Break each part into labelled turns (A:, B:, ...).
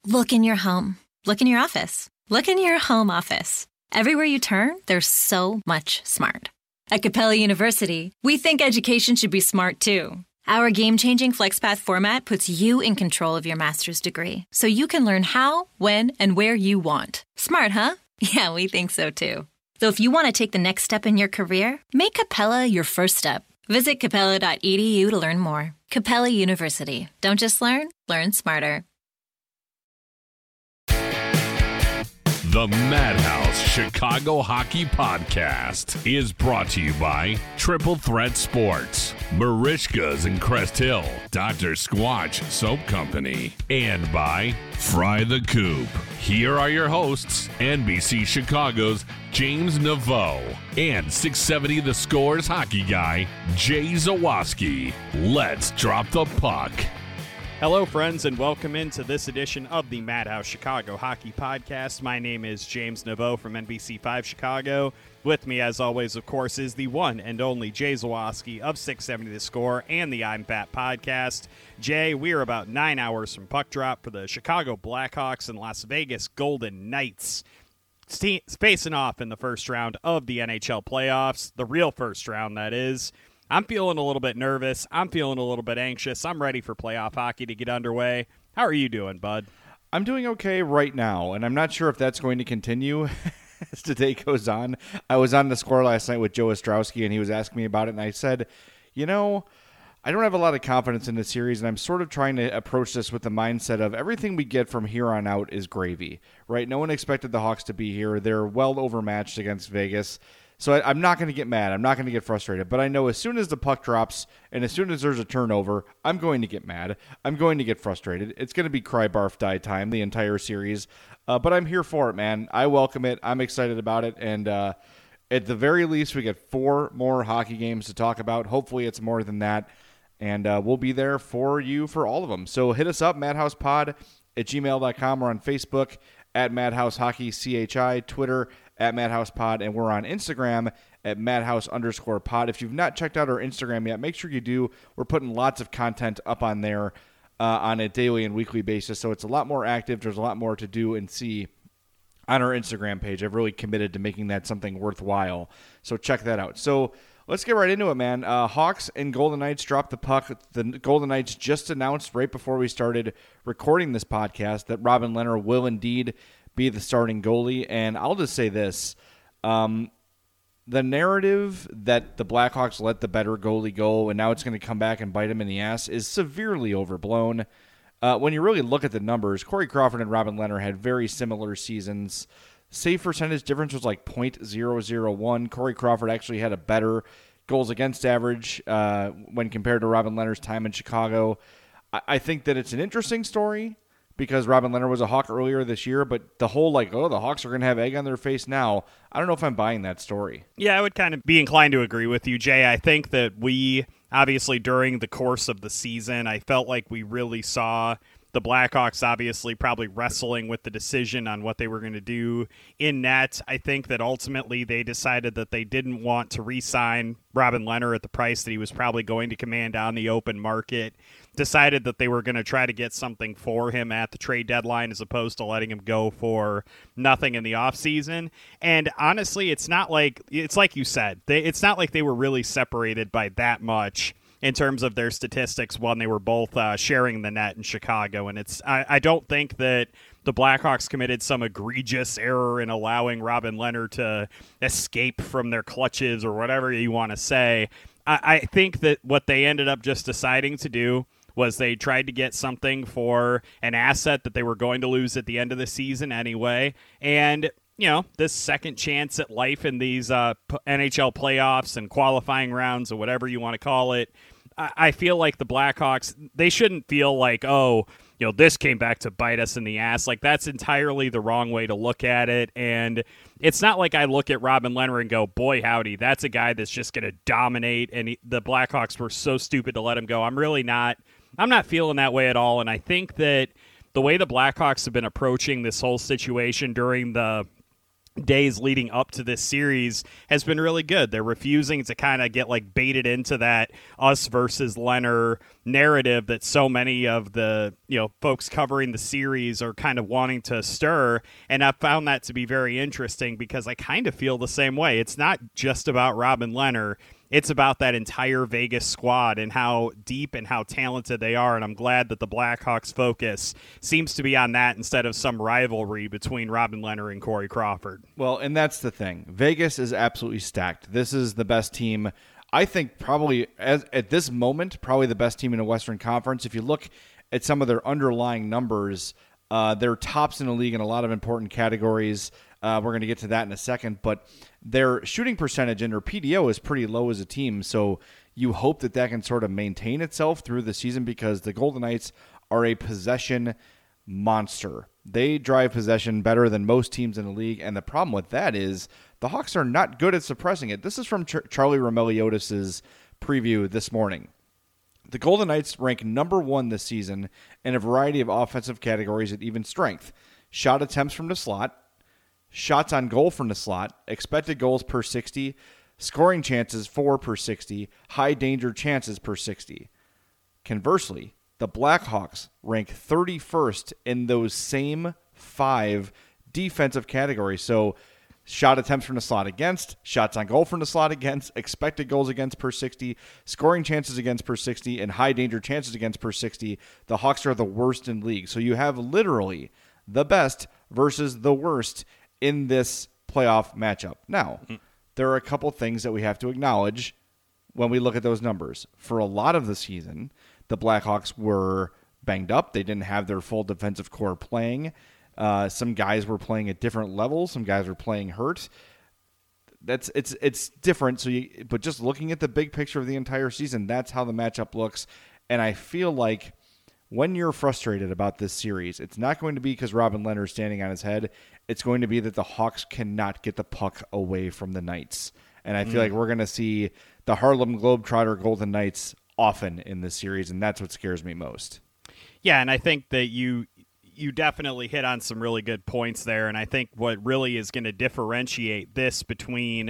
A: Look in your home. Look in your office. Look in your home office. Everywhere you turn, there's so much smart. At Capella University, we think education should be smart too. Our game-changing FlexPath format puts you in control of your master's degree, so you can learn how, when, and where you want. Smart, huh? Yeah, we think so too. So if you want to take the next step in your career, make Capella your first step. Visit capella.edu to learn more. Capella University. Don't just learn smarter.
B: The Madhouse Chicago Hockey Podcast is brought to you by Triple Threat Sports, Marishka's in Crest Hill, Dr. Squatch Soap Company, and by Fry the Coop. Here are your hosts, NBC Chicago's James Naveau and 670 The Score's hockey guy, Jay Zawaski. Let's drop the puck.
C: Hello, friends, and welcome into this edition of the Madhouse Chicago Hockey Podcast. My name is James Naveau from NBC5 Chicago. With me, as always, of course, is the one and only Jay Zawaski of 670 The Score and the I'm Fat Podcast. Jay, we are about 9 hours from puck drop for the Chicago Blackhawks and Las Vegas Golden Knights facing off in the first round of the NHL playoffs, the real first round, that is. I'm feeling a little bit nervous. I'm feeling a little bit anxious. I'm ready for playoff hockey to get underway. How are you doing, bud?
D: I'm doing okay right now, and I'm not sure if that's going to continue as the day goes on. I was on The Score last night with Joe Ostrowski, and he was asking me about it, and I said, I don't have a lot of confidence in this series, and I'm sort of trying to approach this with the mindset of everything we get from here on out is gravy, right? No one expected the Hawks to be here. They're well overmatched against Vegas. So I'm not going to get mad. I'm not going to get frustrated. But I know as soon as the puck drops and as soon as there's a turnover, I'm going to get mad. I'm going to get frustrated. It's going to be cry, barf, die time the entire series. But I'm here for it, man. I welcome it. I'm excited about it. And at the very least, we get 4 more hockey games to talk about. Hopefully it's more than that. And we'll be there for you for all of them. So hit us up, madhousepod@gmail.com. We're on Facebook at Madhouse Hockey CHI, Twitter at Madhouse Pod, and we're on Instagram at Madhouse_pod. If you've not checked out our Instagram yet, make sure you do. We're putting lots of content up on there on a daily and weekly basis, so it's a lot more active. There's a lot more to do and see on our Instagram page. I've really committed to making that something worthwhile, so check that out. So let's get right into it, man. Hawks and Golden Knights dropped the puck. The Golden Knights just announced right before we started recording this podcast that Robin Lehner will indeed be the starting goalie. And I'll just say this. The narrative that the Blackhawks let the better goalie go and now it's going to come back and bite him in the ass is severely overblown. When you really look at the numbers, Corey Crawford and Robin Lehner had very similar seasons. Save percentage difference was like .001. Corey Crawford actually had a better goals against average when compared to Robin Lehner's time in Chicago. I think that it's an interesting story because Robin Lehner was a Hawk earlier this year, but the whole the Hawks are going to have egg on their face now, I don't know if I'm buying that story.
C: Yeah, I would kind of be inclined to agree with you, Jay. I think that we, obviously during the course of the season, I felt like we really saw the Blackhawks obviously probably wrestling with the decision on what they were going to do in net. I think that ultimately they decided that they didn't want to re-sign Robin Lehner at the price that he was probably going to command on the open market. Decided that they were going to try to get something for him at the trade deadline as opposed to letting him go for nothing in the offseason. And honestly, it's like you said, it's not like they were really separated by that much in terms of their statistics when they were both sharing the net in Chicago. And I don't think that the Blackhawks committed some egregious error in allowing Robin Lehner to escape from their clutches or whatever you want to say. I think that what they ended up just deciding to do was they tried to get something for an asset that they were going to lose at the end of the season anyway. And this second chance at life in these NHL playoffs and qualifying rounds or whatever you want to call it, I feel like the Blackhawks, they shouldn't feel like, this came back to bite us in the ass. Like, that's entirely the wrong way to look at it. And it's not like I look at Robin Lehner and go, boy, howdy, that's a guy that's just going to dominate. And the Blackhawks were so stupid to let him go. I'm not feeling that way at all. And I think that the way the Blackhawks have been approaching this whole situation during the days leading up to this series has been really good. They're refusing to kind of get like baited into that us versus Leonard narrative that so many of the folks covering the series are kind of wanting to stir, and I've found that to be very interesting because I kind of feel the same way. It's not just about Robin Leonard. It's about that entire Vegas squad and how deep and how talented they are, and I'm glad that the Blackhawks' focus seems to be on that instead of some rivalry between Robin Leonard and Corey Crawford.
D: Well, and that's the thing. Vegas is absolutely stacked. This is the best team, I think, probably at this moment, probably the best team in the Western Conference. If you look at some of their underlying numbers, they're tops in the league in a lot of important categories. We're going to get to that in a second, but their shooting percentage and their PDO is pretty low as a team, so you hope that can sort of maintain itself through the season because the Golden Knights are a possession monster. They drive possession better than most teams in the league, and the problem with that is the Hawks are not good at suppressing it. This is from Charlie Romeliotis' preview this morning. The Golden Knights rank number 1 this season in a variety of offensive categories at even strength. Shot attempts from the slot, shots on goal from the slot, expected goals per 60, scoring chances 4 per 60, high danger chances per 60. Conversely, the Blackhawks rank 31st in those same 5 defensive categories. So shot attempts from the slot against, shots on goal from the slot against, expected goals against per 60, scoring chances against per 60, and high danger chances against per 60. The Hawks are the worst in league. So you have literally the best versus the worst in this playoff matchup. Now, there are a couple things that we have to acknowledge when we look at those numbers. For a lot of the season, the Blackhawks were banged up. They didn't have their full defensive core playing. Some guys were playing at different levels. Some guys were playing hurt. It's different. But just looking at the big picture of the entire season, that's how the matchup looks. And I feel like when you're frustrated about this series, it's not going to be because Robin Leonard is standing on his head. It's going to be that the Hawks cannot get the puck away from the Knights. And I feel like we're going to see the Harlem Globetrotter Golden Knights often in this series, and that's what scares me most.
C: Yeah, and I think that you definitely hit on some really good points there, and I think what really is going to differentiate this between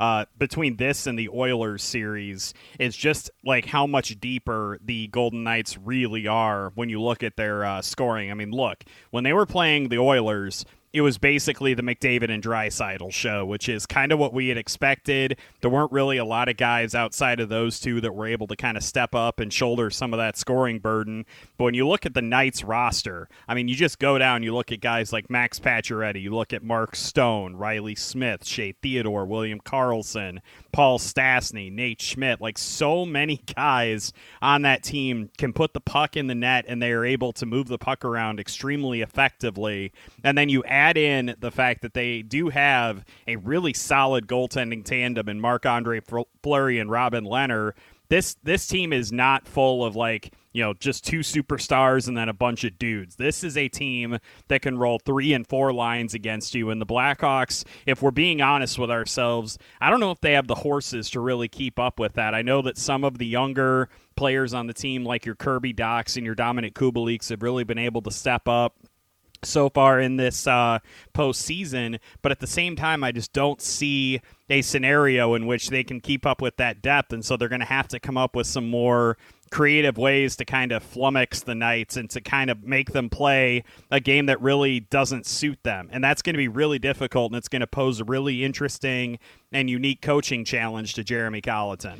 C: this and the Oilers series is just like how much deeper the Golden Knights really are when you look at their scoring. I mean, look, when they were playing the Oilers, it was basically the McDavid and Draisaitl show, which is kind of what we had expected. There weren't really a lot of guys outside of those two that were able to kind of step up and shoulder some of that scoring burden. But when you look at the Knights roster, I mean, you just go down, you look at guys like Max Pacioretty, you look at Mark Stone, Riley Smith, Shea Theodore, William Karlsson, Paul Stastny, Nate Schmidt. Like, so many guys on that team can put the puck in the net, and they are able to move the puck around extremely effectively. And then you add in the fact that they do have a really solid goaltending tandem in Marc-Andre Fleury and Robin Leonard. This team is not full of just 2 superstars and then a bunch of dudes. This is a team that can roll 3 and 4 lines against you. And the Blackhawks, if we're being honest with ourselves, I don't know if they have the horses to really keep up with that. I know that some of the younger players on the team, like your Kirby Dachs and your Dominic Kubaliks, have really been able to step up so far in this postseason, but at the same time, I just don't see a scenario in which they can keep up with that depth, and so they're going to have to come up with some more creative ways to kind of flummox the Knights and to kind of make them play a game that really doesn't suit them, and that's going to be really difficult, and it's going to pose a really interesting and unique coaching challenge to Jeremy Colleton.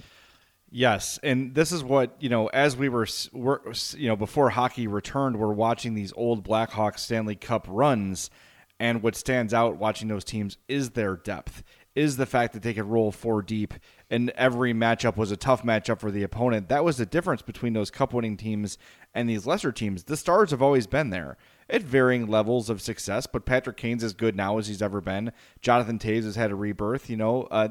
D: Yes, and this is what, as we were before hockey returned, we're watching these old Blackhawks Stanley Cup runs, and what stands out watching those teams is their depth, is the fact that they could roll 4 deep, and every matchup was a tough matchup for the opponent. That was the difference between those cup-winning teams and these lesser teams. The Stars have always been there at varying levels of success, but Patrick Kane's as good now as he's ever been. Jonathan Toews has had a rebirth. You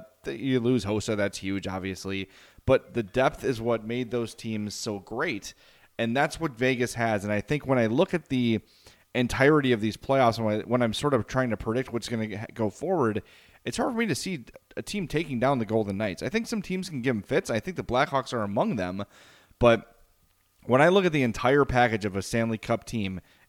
D: lose Hossa, that's huge, obviously. But the depth is what made those teams so great, and that's what Vegas has. And I think when I look at the entirety of these playoffs, when I'm sort of trying to predict what's going to go forward, it's hard for me to see a team taking down the Golden Knights. I think some teams can give them fits. I think the Blackhawks are among them. But when I look at the entire package of a Stanley Cup team, and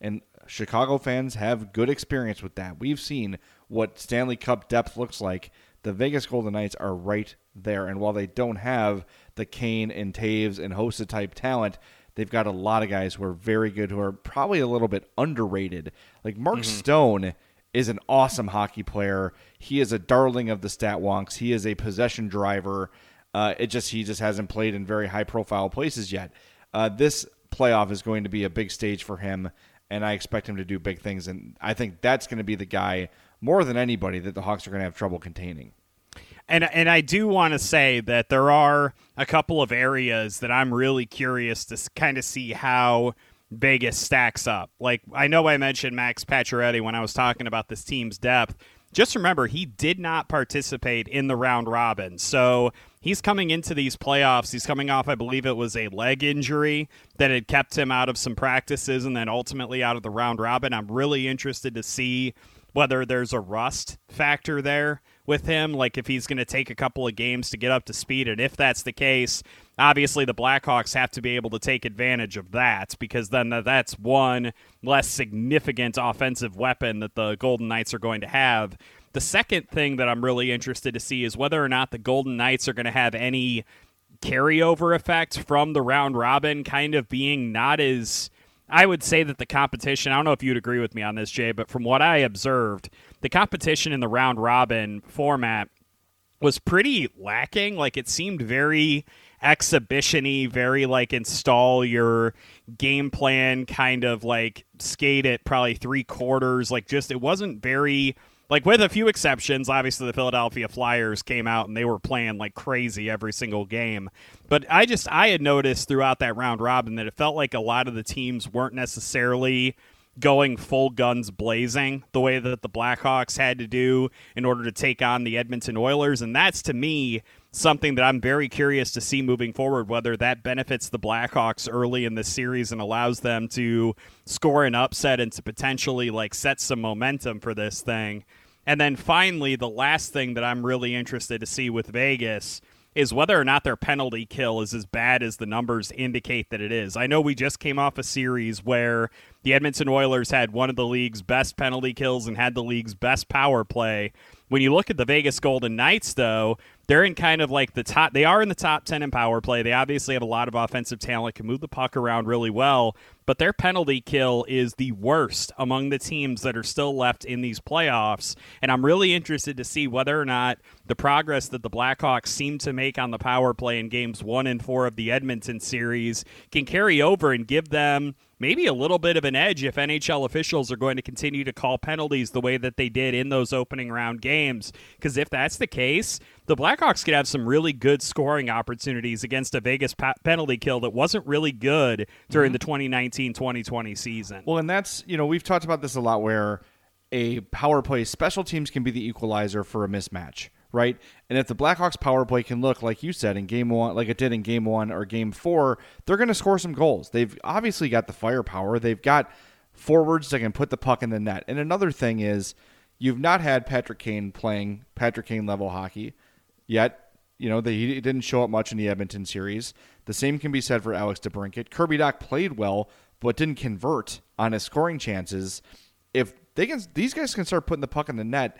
D: Chicago fans have good experience with that. We've seen what Stanley Cup depth looks like. The Vegas Golden Knights are right there. And while they don't have the Kane and Taves and Hossa type talent, they've got a lot of guys who are very good, who are probably a little bit underrated. Like Mark Stone is an awesome hockey player. He is a darling of the stat wonks. He is a possession driver. He just hasn't played in very high profile places yet. This playoff is going to be a big stage for him, and I expect him to do big things. And I think that's going to be the guy more than anybody that the Hawks are going to have trouble containing.
C: And I do want to say that there are a couple of areas that I'm really curious to kind of see how Vegas stacks up. Like, I know I mentioned Max Pacioretty when I was talking about this team's depth. Just remember, he did not participate in the round robin. So he's coming into these playoffs. He's coming off, I believe it was a leg injury that had kept him out of some practices and then ultimately out of the round robin. I'm really interested to see whether there's a rust factor there with him, like if he's going to take a couple of games to get up to speed. And if that's the case, obviously the Blackhawks have to be able to take advantage of that, because then that's one less significant offensive weapon that the Golden Knights are going to have. The second thing that I'm really interested to see is whether or not the Golden Knights are going to have any carryover effect from the round robin kind of being not as... I would say that the competition, I don't know if you'd agree with me on this, Jay, but from what I observed, the competition in the round robin format was pretty lacking. Like, it seemed very exhibition-y, very like install your game plan, kind of like skate it probably 3/4. Like, just, it wasn't very... Like, with a few exceptions, obviously the Philadelphia Flyers came out and they were playing like crazy every single game. But I had noticed throughout that round robin that it felt like a lot of the teams weren't necessarily going full guns blazing the way that the Blackhawks had to do in order to take on the Edmonton Oilers. And that's, to me, something that I'm very curious to see moving forward, whether that benefits the Blackhawks early in this series and allows them to score an upset and to potentially like set some momentum for this thing. And then finally, the last thing that I'm really interested to see with Vegas is whether or not their penalty kill is as bad as the numbers indicate that it is. I know we just came off a series where the Edmonton Oilers had one of the league's best penalty kills and had the league's best power play. When you look at the Vegas Golden Knights, though, they're in kind of like the top. They are in the top 10 in power play. They obviously have a lot of offensive talent, can move the puck around really well, but their penalty kill is the worst among the teams that are still left in these playoffs. And I'm really interested to see whether or not the progress that the Blackhawks seem to make on the power play in games 1 and 4 of the Edmonton series can carry over and give them maybe a little bit of an edge if NHL officials are going to continue to call penalties the way that they did in those opening round games. Because if that's the case, the Blackhawks could have some really good scoring opportunities against a Vegas penalty kill that wasn't really good during the 2019-2020 season.
D: Well, and that's, we've talked about this a lot, where a power play, special teams can be the equalizer for a mismatch, right? And if the Blackhawks power play can look, like you said, in game 1, like it did in game 1 or game 4, they're going to score some goals. They've obviously got the firepower. They've got forwards that can put the puck in the net. And another thing is, you've not had Patrick Kane playing Patrick Kane level hockey yet. He didn't show up much in the Edmonton series. The same can be said for Alex DeBrincat. Kirby Dach played well, but didn't convert on his scoring chances. If these guys can start putting the puck in the net,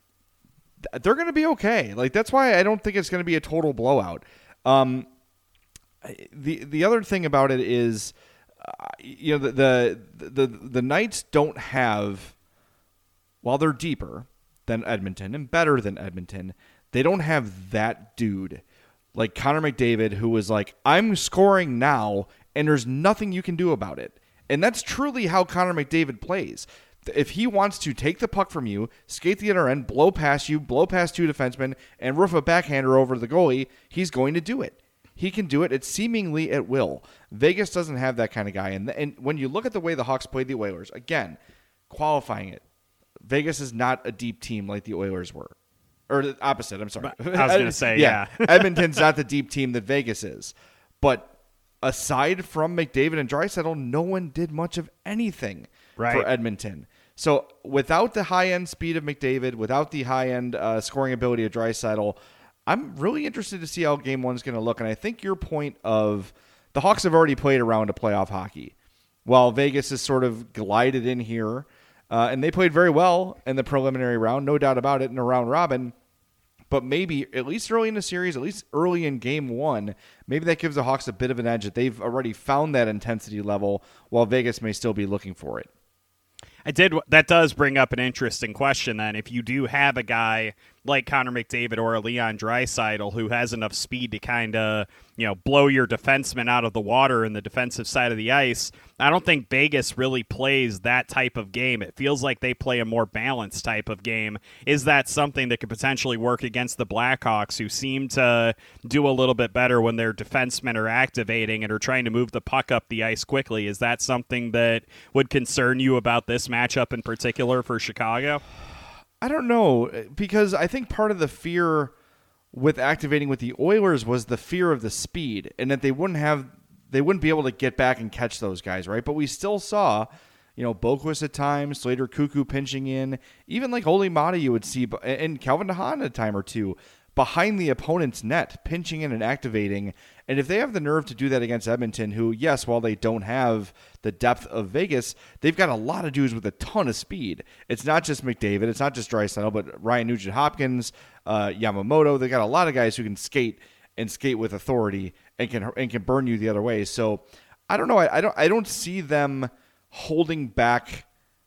D: they're going to be okay. Like, that's why I don't think it's going to be a total blowout. The other thing about it is, the Knights don't have, while they're deeper than Edmonton and better than Edmonton, they don't have that dude like Connor McDavid, who was like, I'm scoring now, and there's nothing you can do about it. And that's truly how Connor McDavid plays. If he wants to take the puck from you, skate the other end, blow past you, blow past 2 defensemen, and roof a backhander over the goalie, he's going to do it. He can do it. It's seemingly at will. Vegas doesn't have that kind of guy. And when you look at the way the Hawks played the Oilers, again, qualifying it, Vegas is not a deep team like the Oilers were. Or the opposite, I'm sorry.
C: I was going to say, yeah.
D: Edmonton's not the deep team that Vegas is. But aside from McDavid and Draisaitl, no one did much of anything for Edmonton. So without the high-end speed of McDavid, without the high-end scoring ability of Draisaitl, I'm really interested to see how Game 1 is going to look. And I think your point of the Hawks have already played a round of playoff hockey. while Vegas has sort of glided in here. And they played very well in the preliminary round, no doubt about it, in a round robin. But maybe, at least early in the series, at least early in game one, maybe that gives the Hawks a bit of an edge that they've already found that intensity level while Vegas may still be looking for it.
C: That does bring up an interesting question then. If you do have a guy like Connor McDavid or a Leon Draisaitl who has enough speed to kind of, blow your defenseman out of the water in the defensive side of the ice, I don't think Vegas really plays that type of game. It feels like they play a more balanced type of game. Is that something that could potentially work against the Blackhawks, who seem to do a little bit better when their defensemen are activating and are trying to move the puck up the ice quickly? Is that something that would concern you about this matchup in particular for Chicago?
D: I don't know, because I think part of the fear with activating with the Oilers was the fear of the speed and that they wouldn't be able to get back and catch those guys, right? But we still saw, Boquist at times, Slater Cuckoo pinching in, even like Oli Mata you would see, and Calvin DeHaan a time or two behind the opponent's net, pinching in and activating. And if they have the nerve to do that against Edmonton, who, yes, while they don't have the depth of Vegas, they've got a lot of dudes with a ton of speed. It's not just McDavid, it's not just Draisaitl, but Ryan Nugent-Hopkins, Yamamoto. They got a lot of guys who can skate with authority and can burn you the other way. So I don't know. I don't see them holding back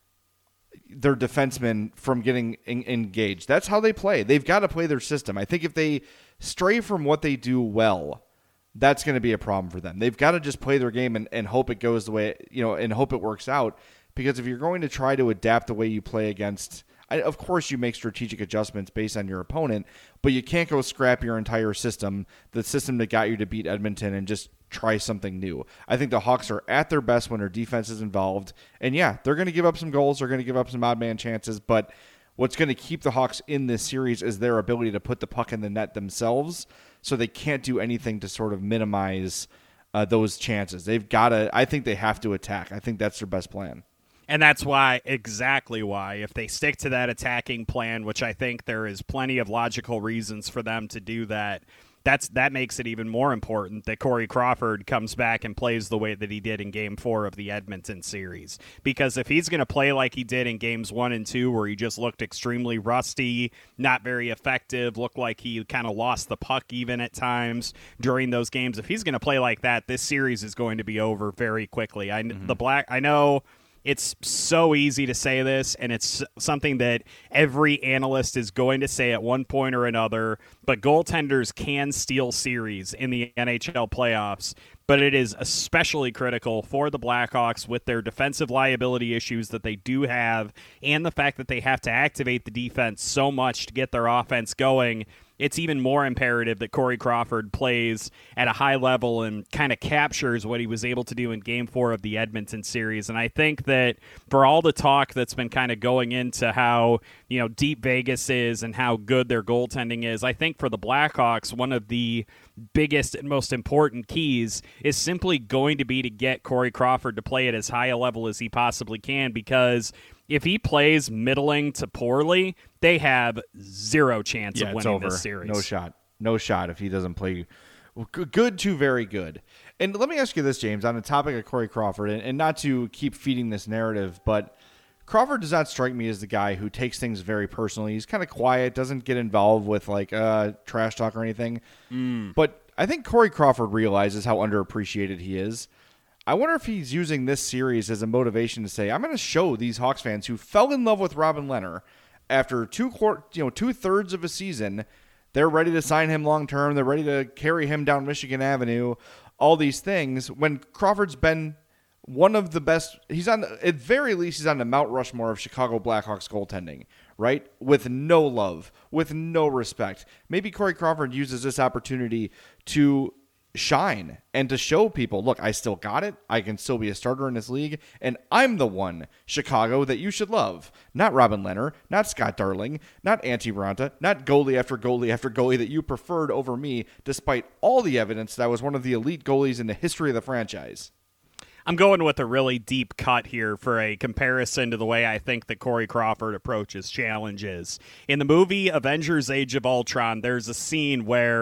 D: their defensemen from getting engaged. That's how they play. They've got to play their system. I think if they stray from what they do well, that's going to be a problem for them. They've got to just play their game and hope it goes the way, and hope it works out. Because if you're going to try to adapt the way you play against, of course you make strategic adjustments based on your opponent, but you can't go scrap your entire system, the system that got you to beat Edmonton, and just try something new. I think the Hawks are at their best when their defense is involved. And yeah, they're going to give up some goals. They're going to give up some odd man chances. But what's going to keep the Hawks in this series is their ability to put the puck in the net themselves. So they can't do anything to sort of minimize those chances. I think they have to attack. I think that's their best plan.
C: And that's exactly why, if they stick to that attacking plan, which I think there is plenty of logical reasons for them to do that, that makes it even more important that Corey Crawford comes back and plays the way that he did in Game 4 of the Edmonton series. Because if he's going to play like he did in Games 1 and 2, where he just looked extremely rusty, not very effective, looked like he kind of lost the puck even at times during those games, if he's going to play like that, this series is going to be over very quickly. I know it's so easy to say this, and it's something that every analyst is going to say at one point or another, but goaltenders can steal series in the NHL playoffs. But it is especially critical for the Blackhawks with their defensive liability issues that they do have, and the fact that they have to activate the defense so much to get their offense going. It's even more imperative that Corey Crawford plays at a high level and kind of captures what he was able to do in Game 4 of the Edmonton series. And I think that for all the talk that's been kind of going into how, deep Vegas is and how good their goaltending is, I think for the Blackhawks, one of the biggest and most important keys is simply going to be to get Corey Crawford to play at as high a level as he possibly can, because if he plays middling to poorly, they have zero chance of winning this series.
D: No shot if he doesn't play good to very good. And let me ask you this, James, on the topic of Corey Crawford, and not to keep feeding this narrative, but Crawford does not strike me as the guy who takes things very personally. He's kind of quiet, doesn't get involved with trash talk or anything. But I think Corey Crawford realizes how underappreciated he is. I wonder if he's using this series as a motivation to say, I'm going to show these Hawks fans who fell in love with Robin Lehner after two-thirds of a season. They're ready to sign him long-term. They're ready to carry him down Michigan Avenue, all these things. When Crawford's been one of the best, at very least, he's on the Mount Rushmore of Chicago Blackhawks goaltending, right? With no love, with no respect. Maybe Corey Crawford uses this opportunity to shine and to show people, look, I still got it. I can still be a starter in this league, and I'm the one, Chicago, that you should love. Not Robin Lehner, not Scott Darling, not Antti Raanta, not goalie after goalie after goalie that you preferred over me, despite all the evidence that I was one of the elite goalies in the history of the franchise.
C: I'm going with a really deep cut here for a comparison to the way I think that Corey Crawford approaches challenges. In the movie Avengers Age of Ultron, there's a scene where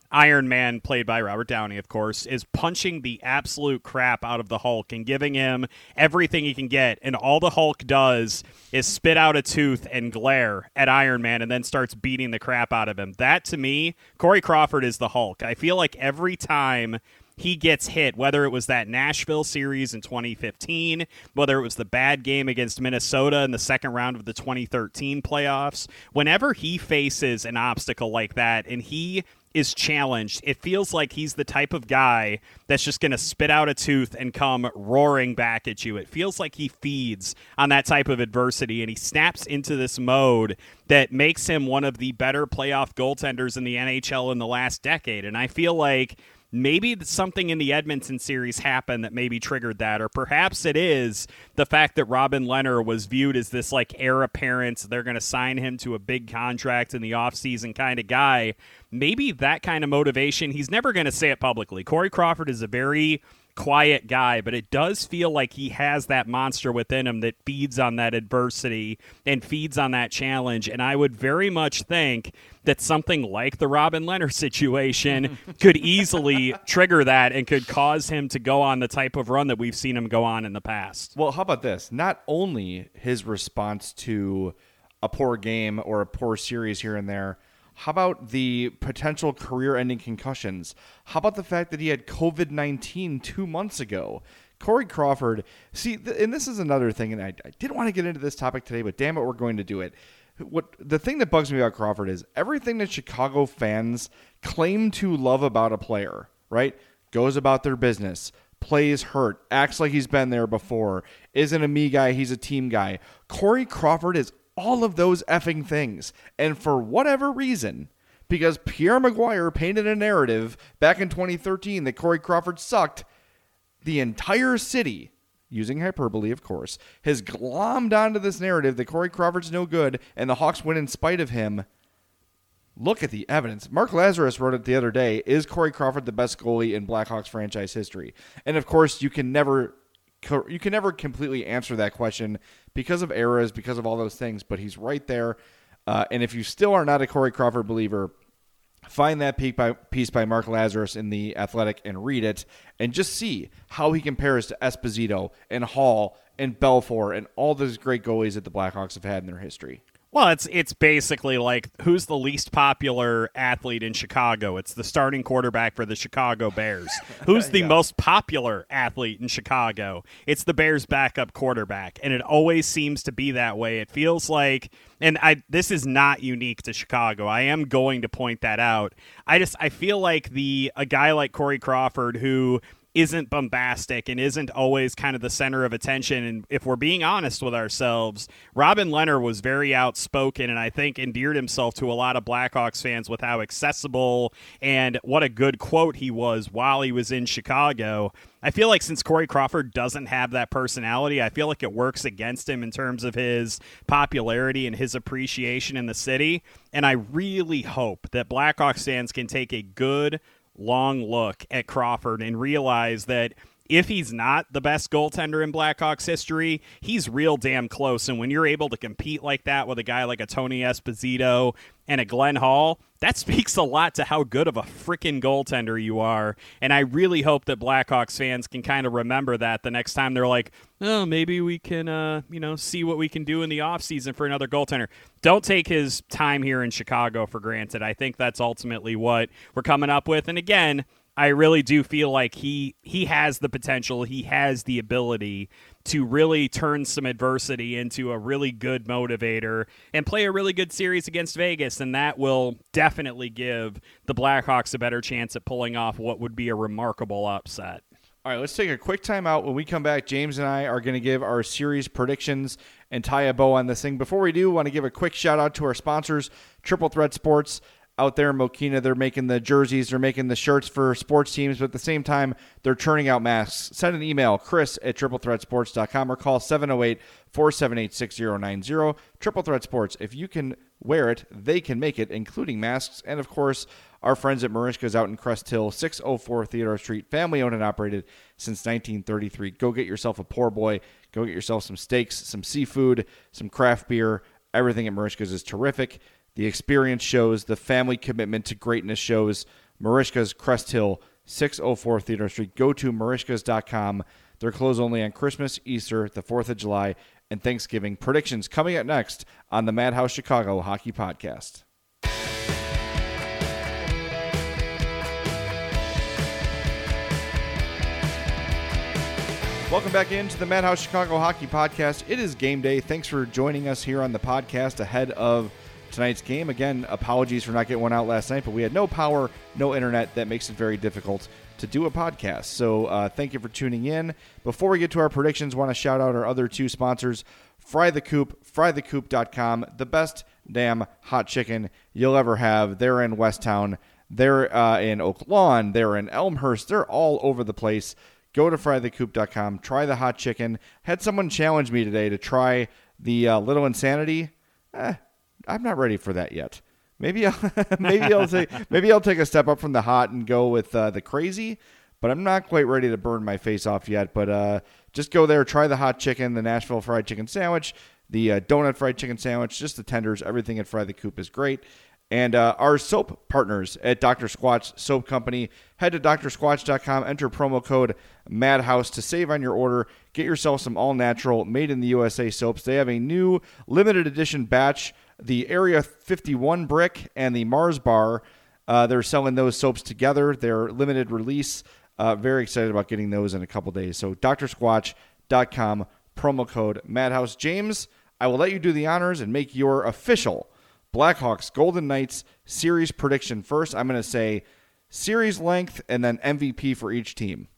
C: Iron Man, played by Robert Downey, of course, is punching the absolute crap out of the Hulk and giving him everything he can get. And all the Hulk does is spit out a tooth and glare at Iron Man and then starts beating the crap out of him. That, to me, Corey Crawford is the Hulk. I feel like every time he gets hit, whether it was that Nashville series in 2015, whether it was the bad game against Minnesota in the second round of the 2013 playoffs, whenever he faces an obstacle like that and he is challenged, it feels like he's the type of guy that's just going to spit out a tooth and come roaring back at you. It feels like he feeds on that type of adversity, and he snaps into this mode that makes him one of the better playoff goaltenders in the NHL in the last decade. And I feel like maybe something in the Edmonton series happened that maybe triggered that, or perhaps it is the fact that Robin Lehner was viewed as this like heir apparent. They're going to sign him to a big contract in the offseason kind of guy. Maybe that kind of motivation. He's never going to say it publicly. Corey Crawford is a very quiet guy, but it does feel like he has that monster within him that feeds on that adversity and feeds on that challenge. And I would very much think that something like the Robin Lehner situation could easily trigger that and could cause him to go on the type of run that we've seen him go on in the past.
D: Well, how about this? Not only his response to a poor game or a poor series here and there, how about the potential career-ending concussions? How about the fact that he had COVID-19 2 months ago? Corey Crawford, and this is another thing, and I didn't want to get into this topic today, but damn it, we're going to do it. The thing that bugs me about Crawford is everything that Chicago fans claim to love about a player, right? Goes about their business, plays hurt, acts like he's been there before, isn't a me guy, he's a team guy. Corey Crawford is all of those effing things. And for whatever reason, because Pierre Maguire painted a narrative back in 2013 that Corey Crawford sucked, the entire city, using hyperbole, of course, has glommed onto this narrative that Corey Crawford's no good and the Hawks win in spite of him. Look at the evidence. Mark Lazarus wrote it the other day. Is Corey Crawford the best goalie in Blackhawks franchise history? And of course, you can never completely answer that question because of eras, because of all those things, but he's right there. And if you still are not a Corey Crawford believer, find that piece by Mark Lazarus in The Athletic and read it and just see how he compares to Esposito and Hall and Belfour and all those great goalies that the Blackhawks have had in their history.
C: Well, it's basically like, who's the least popular athlete in Chicago? It's the starting quarterback for the Chicago Bears. Who's the most popular athlete in Chicago? It's the Bears' backup quarterback, and it always seems to be that way. It feels like, and this is not unique to Chicago. I am going to point that out. I feel like a guy like Corey Crawford, who isn't bombastic and isn't always kind of the center of attention. And if we're being honest with ourselves, Robin Lehner was very outspoken and I think endeared himself to a lot of Blackhawks fans with how accessible and what a good quote he was while he was in Chicago. I feel like since Corey Crawford doesn't have that personality, I feel like it works against him in terms of his popularity and his appreciation in the city. And I really hope that Blackhawks fans can take a good, long look at Crawford and realize that if he's not the best goaltender in Blackhawks history, he's real damn close. And when you're able to compete like that with a guy like a Tony Esposito and a Glenn Hall, that speaks a lot to how good of a freaking goaltender you are. And I really hope that Blackhawks fans can kind of remember that the next time they're like, oh, maybe we can, see what we can do in the offseason for another goaltender. Don't take his time here in Chicago for granted. I think that's ultimately what we're coming up with. And again, I really do feel like he has the potential, he has the ability to really turn some adversity into a really good motivator and play a really good series against Vegas, and that will definitely give the Blackhawks a better chance at pulling off what would be a remarkable upset.
D: All right, let's take a quick time out. When we come back, James and I are going to give our series predictions and tie a bow on this thing. Before we do, I want to give a quick shout-out to our sponsors, Triple Threat Sports. Out there in Mokina, they're making the jerseys, they're making the shirts for sports teams, but at the same time, they're churning out masks. Send an email, chris@triplethreatsports.com, or call 708-478-6090. Triple Threat Sports, if you can wear it, they can make it, including masks. And, of course, our friends at Marishka's out in Crest Hill, 604 Theodore Street, family-owned and operated since 1933. Go get yourself a poor boy. Go get yourself some steaks, some seafood, some craft beer. Everything at Marishka's is terrific. The experience shows, the family commitment to greatness shows. Merichka's Crest Hill, 604 Theodore Street. Go to Merichkas.com. They're closed only on Christmas, Easter, the 4th of July, and Thanksgiving. Predictions coming up next on the Madhouse Chicago Hockey Podcast. Welcome back into the Madhouse Chicago Hockey Podcast. It is game day. Thanks for joining us here on the podcast ahead of tonight's game. Again, apologies for not getting one out last night, but we had no power, no internet. That makes it very difficult to do a podcast. So thank you for tuning in. Before we get to our predictions, want to shout out our other two sponsors, Fry the Coop, frythecoop.com, the best damn hot chicken you'll ever have. They're in Westtown. They're in Oak Lawn. They're in Elmhurst. They're all over the place. Go to frythecoop.com. Try the hot chicken. Had someone challenge me today to try the Little Insanity. I'm not ready for that yet. Maybe I'll take a step up from the hot and go with the crazy, but I'm not quite ready to burn my face off yet. But just go there, try the hot chicken, the Nashville fried chicken sandwich, the donut fried chicken sandwich, just the tenders. Everything at Fry the Coop is great. And our soap partners at Dr. Squatch Soap Company. Head to drsquatch.com, enter promo code MADHOUSE to save on your order. Get yourself some all-natural, made-in-the-USA soaps. They have a new limited edition batch, the Area 51 Brick and the Mars Bar. They're selling those soaps together. They're limited release. Very excited about getting those in a couple days. So drsquatch.com, promo code MADHOUSE. James, I will let you do the honors and make your official Blackhawks Golden Knights series prediction first. I'm going to say series length and then MVP for each team.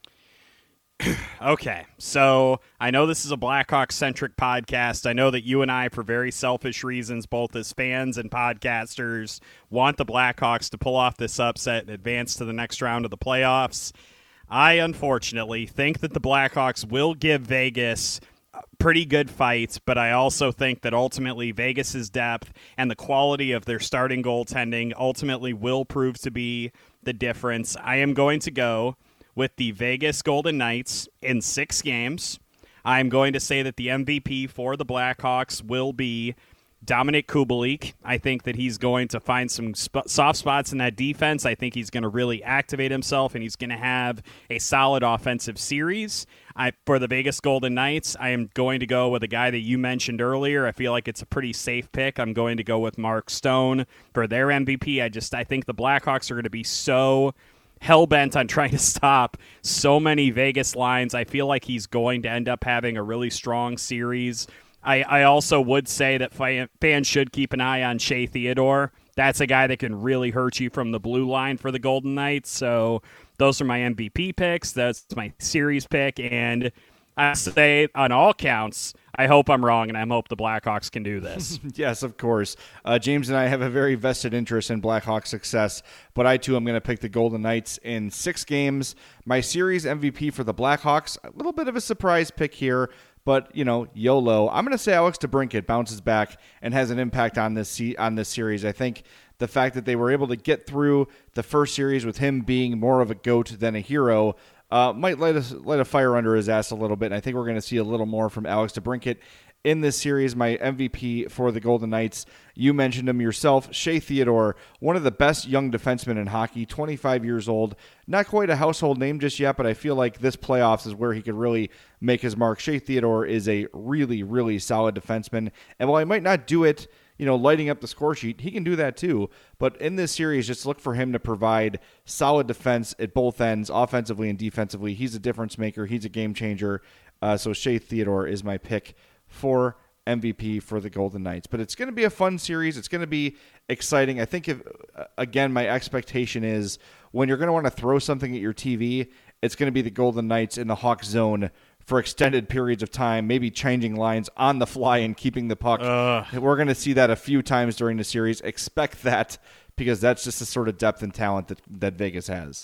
C: Okay, so I know this is a Blackhawks-centric podcast. I know that you and I, for very selfish reasons, both as fans and podcasters, want the Blackhawks to pull off this upset and advance to the next round of the playoffs. I, unfortunately, think that the Blackhawks will give Vegas pretty good fights, but I also think that ultimately Vegas's depth and the quality of their starting goaltending ultimately will prove to be the difference. I am going to go with the Vegas Golden Knights in 6 games. I'm going to say that the MVP for the Blackhawks will be Dominik Kubalik. I think that he's going to find some soft spots in that defense. I think he's going to really activate himself, and he's going to have a solid offensive series. For the Vegas Golden Knights, I am going to go with a guy that you mentioned earlier. I feel like it's a pretty safe pick. I'm going to go with Mark Stone for their MVP. I think the Blackhawks are going to be so hell-bent on trying to stop so many Vegas lines. I feel like he's going to end up having a really strong series. I also would say that fans should keep an eye on Shea Theodore. That's a guy that can really hurt you from the blue line for the Golden Knights. So those are my MVP picks. That's my series pick. And I say on all counts, I hope I'm wrong, and I hope the Blackhawks can do this.
D: Yes, of course. James and I have a very vested interest in Blackhawks success, but I, too, am going to pick the Golden Knights in 6 games. My series MVP for the Blackhawks, a little bit of a surprise pick here, but, YOLO. I'm going to say Alex DeBrincat bounces back and has an impact on this series. I think the fact that they were able to get through the first series with him being more of a GOAT than a hero might light a fire under his ass a little bit. And I think we're going to see a little more from Alex DeBrincat in this series. My MVP for the Golden Knights, you mentioned him yourself, Shea Theodore, one of the best young defensemen in hockey, 25 years old. Not quite a household name just yet, but I feel like this playoffs is where he could really make his mark. Shea Theodore is a really, really solid defenseman. And while he might not do it, lighting up the score sheet, he can do that too. But in this series, just look for him to provide solid defense at both ends, offensively and defensively. He's a difference maker. He's a game changer. So Shea Theodore is my pick for MVP for the Golden Knights. But it's going to be a fun series. It's going to be exciting. I think, again, my expectation is when you're going to want to throw something at your TV, it's going to be the Golden Knights in the Hawk zone for extended periods of time, maybe changing lines on the fly and keeping the puck. We're going to see that a few times during the series. Expect that, because that's just the sort of depth and talent that Vegas has.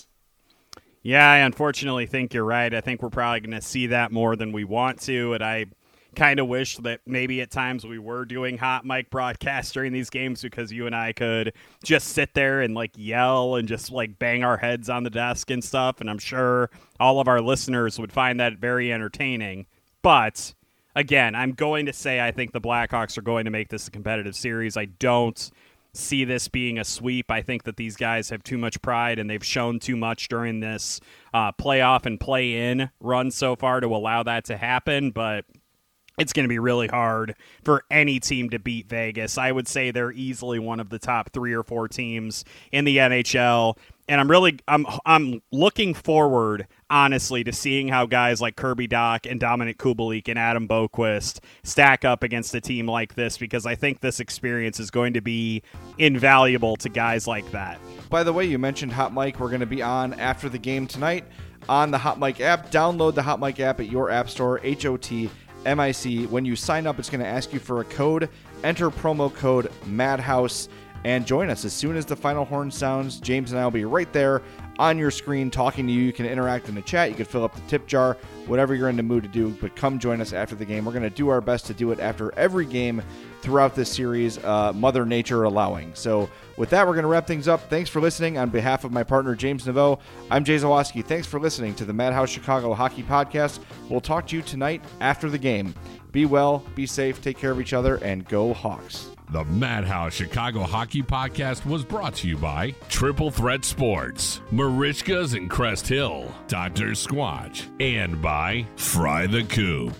C: Yeah, I unfortunately think you're right. I think we're probably going to see that more than we want to, and I kind of wish that maybe at times we were doing hot mic broadcasts during these games, because you and I could just sit there and yell and just bang our heads on the desk and stuff. And I'm sure all of our listeners would find that very entertaining. But again, I'm going to say I think the Blackhawks are going to make this a competitive series. I don't see this being a sweep. I think that these guys have too much pride, and they've shown too much during this playoff and play-in run so far to allow that to happen, but it's going to be really hard for any team to beat Vegas. I would say they're easily one of the top 3 or 4 teams in the NHL. And I'm looking forward, honestly, to seeing how guys like Kirby Dach and Dominic Kubalik and Adam Boqvist stack up against a team like this, because I think this experience is going to be invaluable to guys like that.
D: By the way, you mentioned Hot Mic. We're going to be on after the game tonight on the Hot Mic app. Download the Hot Mic app at your app store, HOTMIC. When you sign up, it's going to ask you for a code. Enter promo code MADHOUSE and join us. As soon as the final horn sounds, James and I will be right there on your screen talking to you. You can interact in the chat. You can fill up the tip jar, whatever you're in the mood to do, but come join us after the game. We're going to do our best to do it after every game throughout this series, Mother Nature allowing. So with that, we're going to wrap things up. Thanks for listening. On behalf of my partner, James Naveau, I'm Jay Zawaski. Thanks for listening to the Madhouse Chicago Hockey Podcast. We'll talk to you tonight after the game. Be well, be safe, take care of each other, and go Hawks.
B: The Madhouse Chicago Hockey Podcast was brought to you by Triple Threat Sports, Marishkas and Crest Hill, Dr. Squatch, and by Fry the Coop.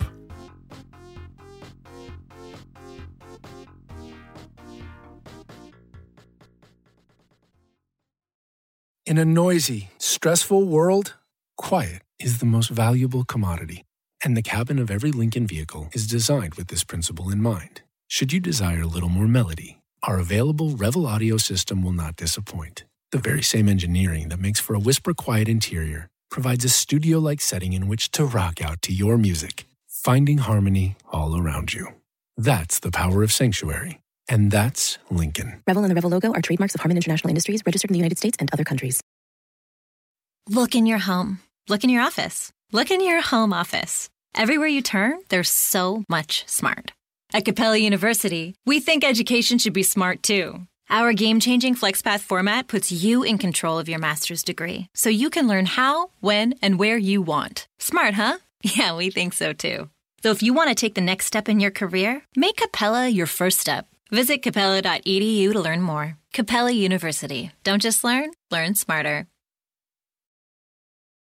E: In a noisy, stressful world, quiet is the most valuable commodity. And the cabin of every Lincoln vehicle is designed with this principle in mind. Should you desire a little more melody, our available Revel audio system will not disappoint. The very same engineering that makes for a whisper-quiet interior provides a studio-like setting in which to rock out to your music, finding harmony all around you. That's the power of Sanctuary. And that's Lincoln.
F: Revel and the Revel logo are trademarks of Harman International Industries, registered in the United States and other countries.
A: Look in your home. Look in your office. Look in your home office. Everywhere you turn, there's so much smart. At Capella University, we think education should be smart too. Our game-changing FlexPath format puts you in control of your master's degree, so you can learn how, when, and where you want. Smart, huh? Yeah, we think so too. So if you want to take the next step in your career, make Capella your first step. Visit capella.edu to learn more. Capella University. Don't just learn smarter.